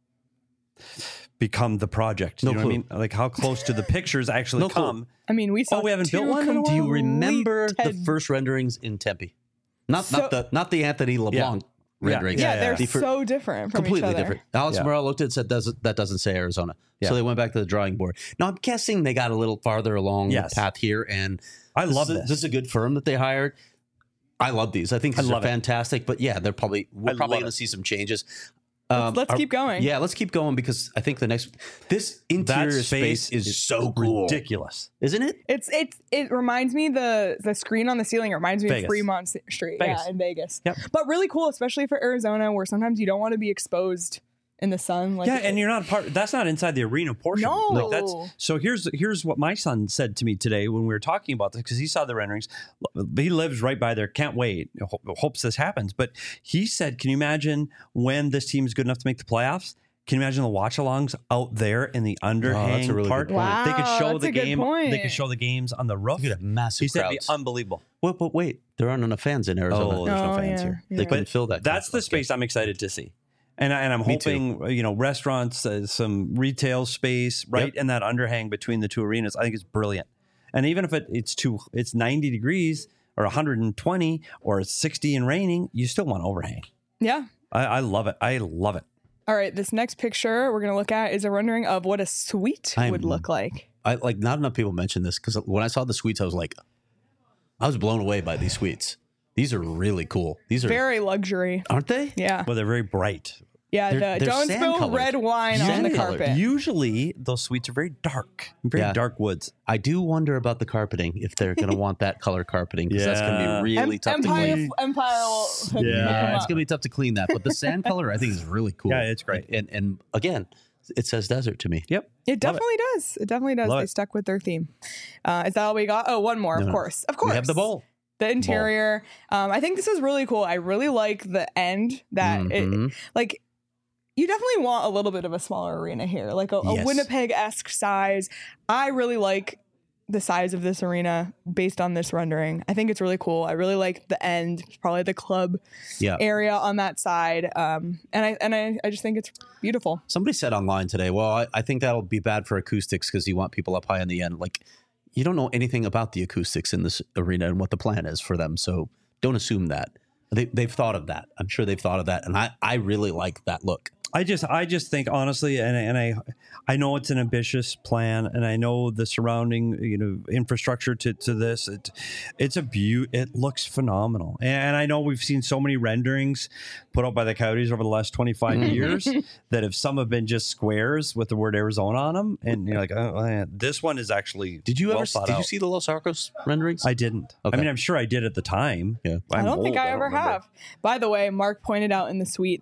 become the project? You No know clue. what I mean? Like how close do the pictures actually No clue. come? I mean, we saw. Oh, we haven't two built one in a while? do you remember the completed- first renderings in Tempe? Not So- not the not the Anthony LeBlanc Yeah. renderings. Yeah, Yeah, they're yeah. The fir- so different from completely each other. different. Alex Yeah. Morel looked at it and said doesn't, that doesn't say Arizona. Yeah. So they went back to the drawing board. Now I'm guessing they got a little farther along Yes. the path here, and I love this. this. Is, this is a good firm that they hired. I love these. I think I these are love it. fantastic. But yeah, they're probably we're I probably love going it. to see some changes. Let's, Um, let's are- keep going. Yeah, let's keep going because I think the next this That interior space, is so cool, ridiculous. isn't it? It's it's it reminds me the the screen on the ceiling. It reminds me Vegas. of Fremont Street, Vegas. yeah, in Vegas. Yep. But really cool, especially for Arizona, where sometimes you don't want to be exposed in the sun. Like Yeah, and you're not part. That's not inside the arena portion. No. Like, that's so. Here's here's what my son said to me today when we were talking about this because he saw the renderings. He lives right by there. Can't wait. Ho- Hopes this happens. But he said, "Can you imagine when this team is good enough to make the playoffs? Can you imagine the watch-alongs out there in the underhang a really part? good point. They could Wow, show that's the a good game. They point. could show the games on the roof. You could have massive He said, "It'd crowds. be unbelievable." Wait, but wait, there aren't enough fans in Arizona. Oh, there's no Oh, fans yeah, here. yeah. They couldn't But fill that. That's the Okay. space I'm excited to see. And, I, and I'm Me too. hoping, you know, restaurants, uh, some retail space right Yep. in that underhang between the two arenas. I think it's brilliant. And even if it, it's too, it's ninety degrees or one hundred twenty or it's sixty and raining, you still want overhang. yeah. I, I love it. I love it. All right, this next picture we're gonna look at is a rendering of what a suite I'm- would look like. I like not enough people mention this because when I saw the suites, I was like, I was blown away by these suites. These are really cool. These are Very luxury. aren't they? Yeah, Well, they're very bright. yeah. They're- the they're don't spill sand-colored. red wine on the Sand-colored. carpet. Usually those suites are very dark, very Yeah. dark woods. I do wonder about the carpeting if they're going to want that color carpeting because that's going to Yeah. be really Em- tough Empire, to clean. Empire will hook- Yeah. hook 'em Yeah, it's up. going to be tough to clean that. But the sand color, I think, is really cool. Yeah, it's great. And and again, it says desert to me. Yep. It definitely does. It definitely does. Love They it. stuck with their theme. Uh, is that all we got? Oh, one more, No, of no. course. Of course. We have the bowl. The interior. Um, I think this is really cool. I really like the end that it, Mhm. like you definitely want a little bit of a smaller arena here, like a, a Yes. Winnipeg-esque size. I really like the size of this arena based on this rendering. I think it's really cool. I really like the end, probably the club Yeah. area on that side. Um, and I and I, I just think it's beautiful. Somebody said online today, well, I, I think that'll be bad for acoustics because you want people up high in the end. Like, you don't know anything about the acoustics in this arena and what the plan is for them. So don't assume that. They, they've thought of that. I'm sure they've thought of that. And I, I really like that look. I just, I just think honestly, and and I, I know it's an ambitious plan, and I know the surrounding, you know, infrastructure to, to this. It, it's a beaut. It looks phenomenal, and I know we've seen so many renderings put out by the Coyotes over the last twenty-five years that if some have been just squares with the word Arizona on them, and you're like, oh, man, this one is actually. Did you well ever thought did you out. see the Los Arcos renderings? I didn't. Okay. I mean, I'm sure I did at the time. Yeah. I I'm don't think old, I ever remember. have. By the way, Mark pointed out in the suite that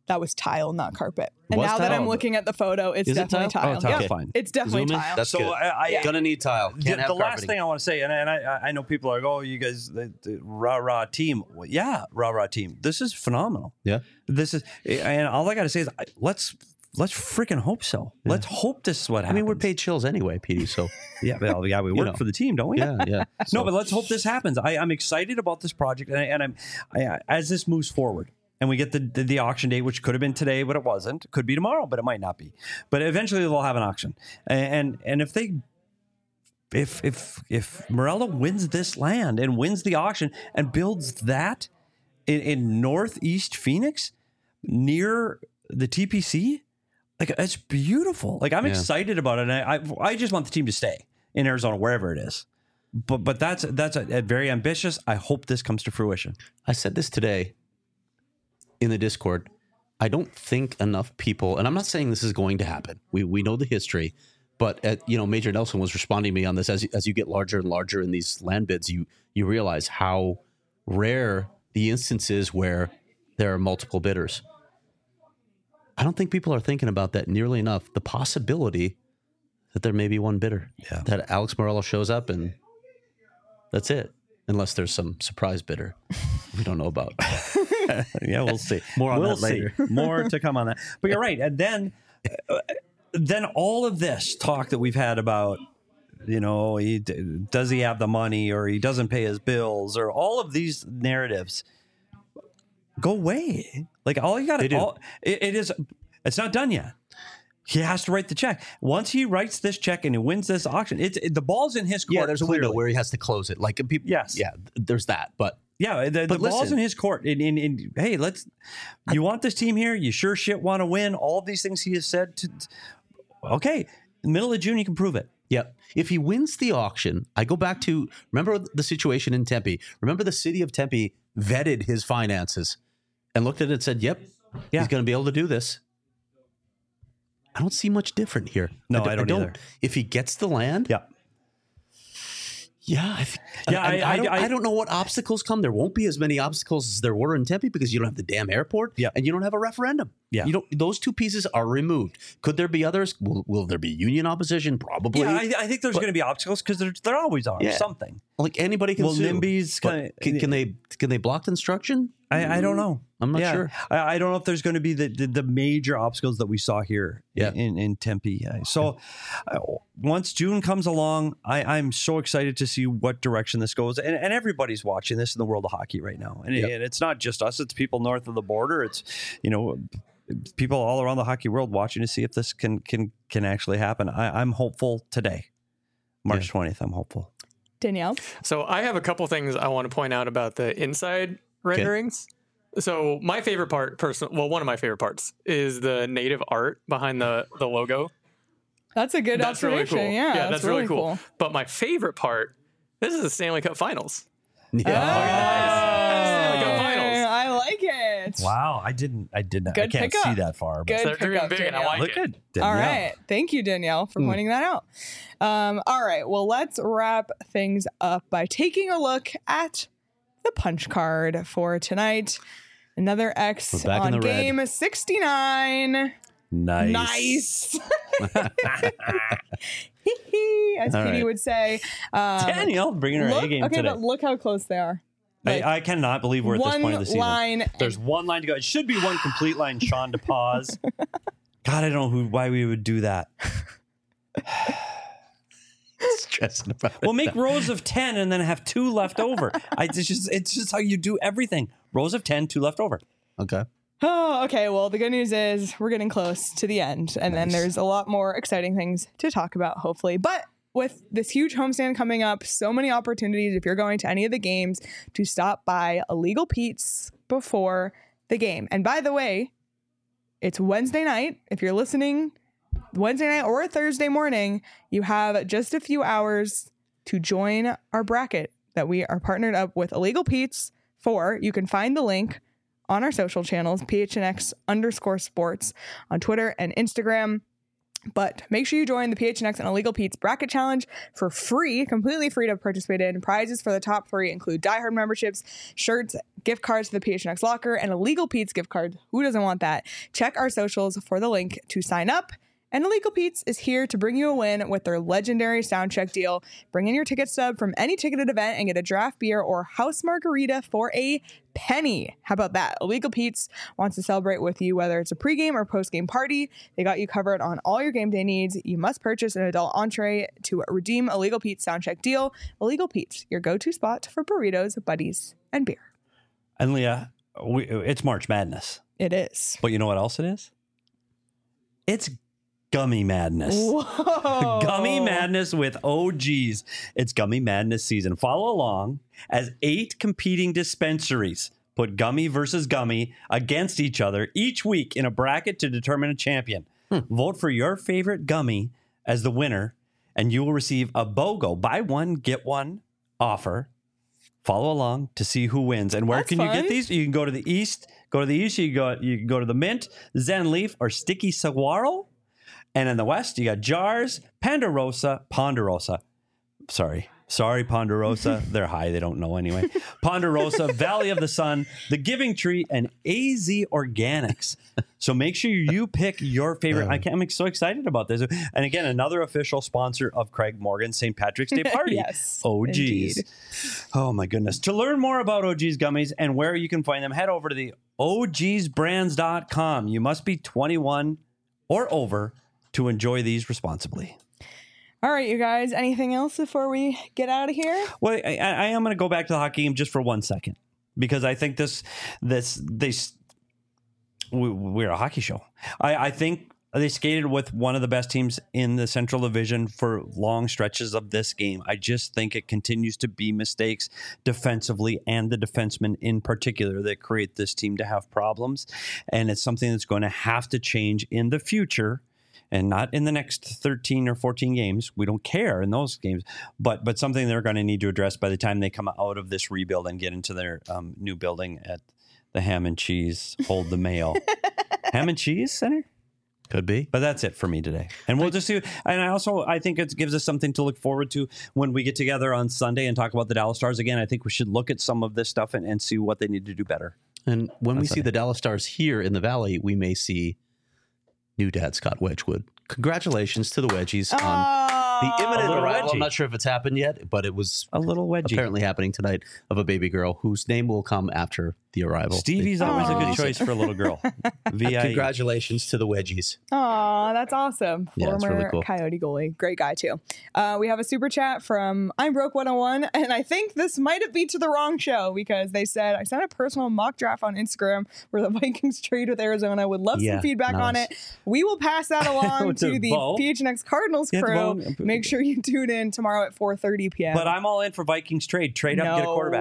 that was tile, not carpet. And Was now that tile? I'm looking at the photo, it's Is it definitely tile? tile. Oh, tile's Yeah, fine. it's definitely Zoom in? tile. That's So good. I, I Yeah. Gonna need tile. Can't the, have the last carpeting. thing I want to say, and, and I, I know people are like, oh, you guys, the, the rah rah team. Well, yeah, rah rah team. This is phenomenal. Yeah. This is, and all I got to say is, I- let's let's freaking hope so. Let's hope this is what I happens. mean, we're paid chills anyway, Petey. So Yeah, well, yeah, we work know. for the team, don't we? yeah, yeah. No, So- but let's hope this happens. I, I'm excited about this project, and, I, and I'm I, as this moves forward, and we get the, the the auction date, which could have been today, but it wasn't. It could be tomorrow, but it might not be. But eventually, they'll have an auction, and and, and if they. If if if Morella wins this land and wins the auction and builds that in, in northeast Phoenix near the T P C, like it's beautiful. Like I'm Yeah. excited about it. And I, I I just want the team to stay in Arizona, wherever it is. But but that's that's a, a very ambitious. I hope this comes to fruition. I said this today in the Discord. I don't think enough people, and I'm not saying this is going to happen. We we know the history, but uh, you know, Major Nelson was responding to me on this. As as you get larger and larger in these land bids, you you realize how rare the instances where there are multiple bidders. I don't think people are thinking about that nearly enough. The possibility that there may be one bidder, Yeah. that Alex Morello shows up and that's it, unless there's some surprise bidder we don't know about. Yeah, we'll see. More on we'll that later. see. More to come on that. But you're right. And then, uh, then all of this talk that we've had about, you know, he does he have the money, or he doesn't pay his bills, or all of these narratives go away. Like all you got They to, do. it, it is. It's not done yet. He has to write the check. Once he writes this check and he wins this auction, it's it, the ball's in his court. Yeah, there's a window clearly. where he has to close it. Like people, Yes. yeah, there's that. But Yeah, the, the But ball's listen. in his court. And, and, and hey, let's. You want this team here? You sure shit want to win? All of these things he has said. To, okay, in the middle of June, you can prove it. yeah, if he wins the auction, I go back to remember the situation in Tempe. Remember the city of Tempe vetted his finances and looked at it and said, "Yep, Yeah. he's going to be able to do this." I don't see much different here. No, I don't either. If he gets the land, Yeah, yeah, I think, Yeah, I, I- I, don't, I- I don't know what obstacles come. There won't be as many obstacles as there were in Tempe because you don't have the damn airport, Yeah. and you don't have a referendum. Yeah. you don't. Those two pieces are removed. Could there be others? Will, will there be union opposition? Probably. yeah. I, I think there's going to be obstacles because there, there always are. Yeah. Something. Like anybody can Well, sue. NIMBY's But kinda- can, can they can they block construction? I, I don't know. I'm not Yeah. sure. I, I don't know if there's going to be the, the the major obstacles that we saw here Yeah. in, in Tempe. Uh, So uh, once June comes along, I, I'm so excited to see what direction this goes. And, and everybody's watching this in the world of hockey right now. And, Yep. and it's not just us. It's people north of the border. It's, you know, people all around the hockey world watching to see if this can can can actually happen. I, I'm hopeful today. March twentieth, I'm hopeful. Danielle? So I have a couple things I want to point out about the inside renderings. So my favorite part, person, well, one of my favorite parts is the native art behind the the logo. That's a good That's really observation. cool. Yeah, that's, really cool. But my favorite part, this is the Stanley Cup Finals. Yeah. Stanley Cup Finals. I like it. Wow, I didn't. I did not. Good I can't pickup. see that far. But Good They're dreaming pickup, big, and I Danielle. like look it. at All Danielle. right. Thank you, Danielle, for Hmm. pointing that out. Um, all right. Well, let's wrap things up by taking a look at the punch card for tonight. Another X We're back in on the red. game sixty-nine. Nice. Nice. As All Petey right. would say. Um, Danielle bringing her look, A game okay, today. but look how close they are. Like, I, I cannot believe we're at this one point of the season. line. There's one line to go. It should be one complete line. Sean to pause. God, I don't know who, why we would do that. Stressing about it. Well, make rows of ten and then have two left over. I, it's just it's just how you do everything. Rows of ten, two left over. Okay. Oh, okay. Well, the good news is we're getting close to the end, and then Nice. there's a lot more exciting things to talk about, hopefully. But with this huge homestand coming up, so many opportunities if you're going to any of the games to stop by Illegal Pete's before the game. And by the way, it's Wednesday night. If you're listening Wednesday night or Thursday morning, you have just a few hours to join our bracket that we are partnered up with Illegal Pete's for. You can find the link on our social channels, P H N X underscore sports on Twitter and Instagram. But make sure you join the P H N X and Illegal Pete's Bracket Challenge for free, completely free to participate in. Prizes for the top three include diehard memberships, shirts, gift cards to the P H N X locker, and Illegal Pete's gift card. Who doesn't want that? Check our socials for the link to sign up. And Illegal Pete's is here to bring you a win with their legendary sound check deal. Bring in your ticket stub from any ticketed event and get a draft beer or house margarita for a penny. How about that? Illegal Pete's wants to celebrate with you, whether it's a pregame or postgame party. They got you covered on all your game day needs. You must purchase an adult entree to redeem Illegal Pete's sound check deal. Illegal Pete's, your go-to spot for burritos, buddies, and beer. And Leah, we, it's March Madness. It is. But you know what else it is? It's Gummy Madness. Whoa. Gummy Madness with O Gs. It's Gummy Madness season. Follow along as eight competing dispensaries put gummy versus gummy against each other each week in a bracket to determine a champion. Hmm. Vote for your favorite gummy as the winner, and you will receive a BOGO, buy one, get one offer. Follow along to see who wins. And where That's can fun. you get these? You can go to the East. Go to the East. You go. You can go to the Mint, Zen Leaf, or Sticky Saguaro. And in the West, you got Jars, Ponderosa, Ponderosa. Sorry. Sorry, Ponderosa. They're high. They don't know anyway. Ponderosa, Valley of the Sun, The Giving Tree, and A Z Organics. So make sure you pick your favorite. I can't, I'm so excited about this. And again, another official sponsor of Craig Morgan's Saint Patrick's Day Party. Yes, O Gs. indeed. Oh, my goodness. To learn more about O G's gummies and where you can find them, head over to the O Gs brands dot com. You must be twenty-one or over to enjoy these responsibly. All right, you guys. Anything else before we get out of here? Well, I, I am going to go back to the hockey game just for one second because I think this, this, they, we, we're a hockey show. I, I think they skated with one of the best teams in the Central Division for long stretches of this game. I just think it continues to be mistakes defensively and the defensemen in particular that create this team to have problems. And it's something that's going to have to change in the future. And not in the next thirteen or fourteen games. We don't care in those games, but but something they're going to need to address by the time they come out of this rebuild and get into their um, new building at the Ham and Cheese Hold the Mail. Ham and Cheese Center? Could be. But that's it for me today. And we'll just see. And I also, I think it gives us something to look forward to when we get together on Sunday and talk about the Dallas Stars again. I think we should look at some of this stuff and, and see what they need to do better. And when we That's see okay. the Dallas Stars here in the Valley, we may see new dad Scott Wedgwood. Congratulations to the Wedgies on the imminent little arrival. wedgie. I'm not sure if it's happened yet, but it was A little wedgie. apparently happening tonight of a baby girl whose name will come after the arrival. Stevie's They- always a Aw. good choice for a little girl. V I E. Congratulations to the Wedgies. Aw, that's awesome. Yeah, it's Former really cool. Coyote goalie. Great guy, too. Uh, we have a super chat from I'm Broke one oh one, and I think this might have been to the wrong show because they said, I sent a personal mock draft on Instagram where the Vikings trade with Arizona. Would love Yeah, some feedback on nice. it. We will pass that along With to the the bow. P H N X Cardinals Yeah, the crew. bow. Make sure you tune in tomorrow at four thirty p.m. But I'm all in for Vikings trade. Trade up, get a quarterback.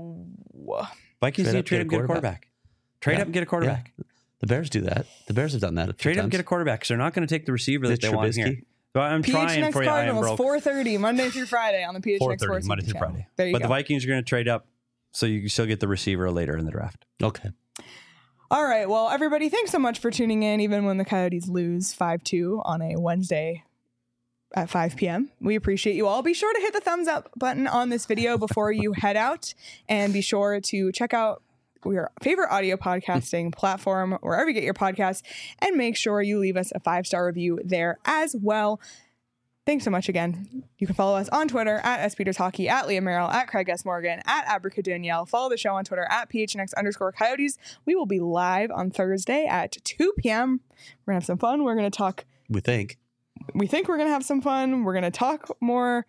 No. Vikings Trade need up, to trade up, get a quarterback. Trade Yeah. up, and get a quarterback. Yeah. The Bears do that. The Bears have done that a few Trade up, times. and get a quarterback because they're not going to take the receiver that Is it they want here. Trubisky? So I'm P H N trying X for you. I am Cardinals, broke. four thirty, Monday through Friday on the P H N X four thirty, Sports Monday YouTube through channel. Friday. There you But go. the Vikings are going to trade up so you can still get the receiver later in the draft. Okay. All right. Well, everybody, thanks so much for tuning in, even when the Coyotes lose five two on a Wednesday at five p.m. We appreciate you all. Be sure to hit the thumbs up button on this video before you head out, and be sure to check out your favorite audio podcasting platform, wherever you get your podcasts, and make sure you leave us a five-star review there as well. Thanks so much again. You can follow us on Twitter at S Peters Hockey, at Leah Merrill, at Craig S. Morgan, at Abracadanielle. Follow the show on Twitter at P H N X underscore Coyotes. We will be live on Thursday at two p.m. We're going to have some fun. We're going to talk. We think. We think we're going to have some fun. We're going to talk more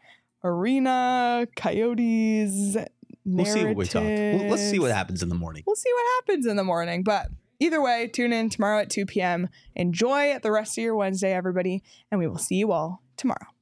arena, Coyotes, We'll see what we talk. Well, let's see what narratives. happens in the morning. We'll see what happens in the morning. But either way, tune in tomorrow at two p.m. Enjoy the rest of your Wednesday, everybody, and we will see you all tomorrow.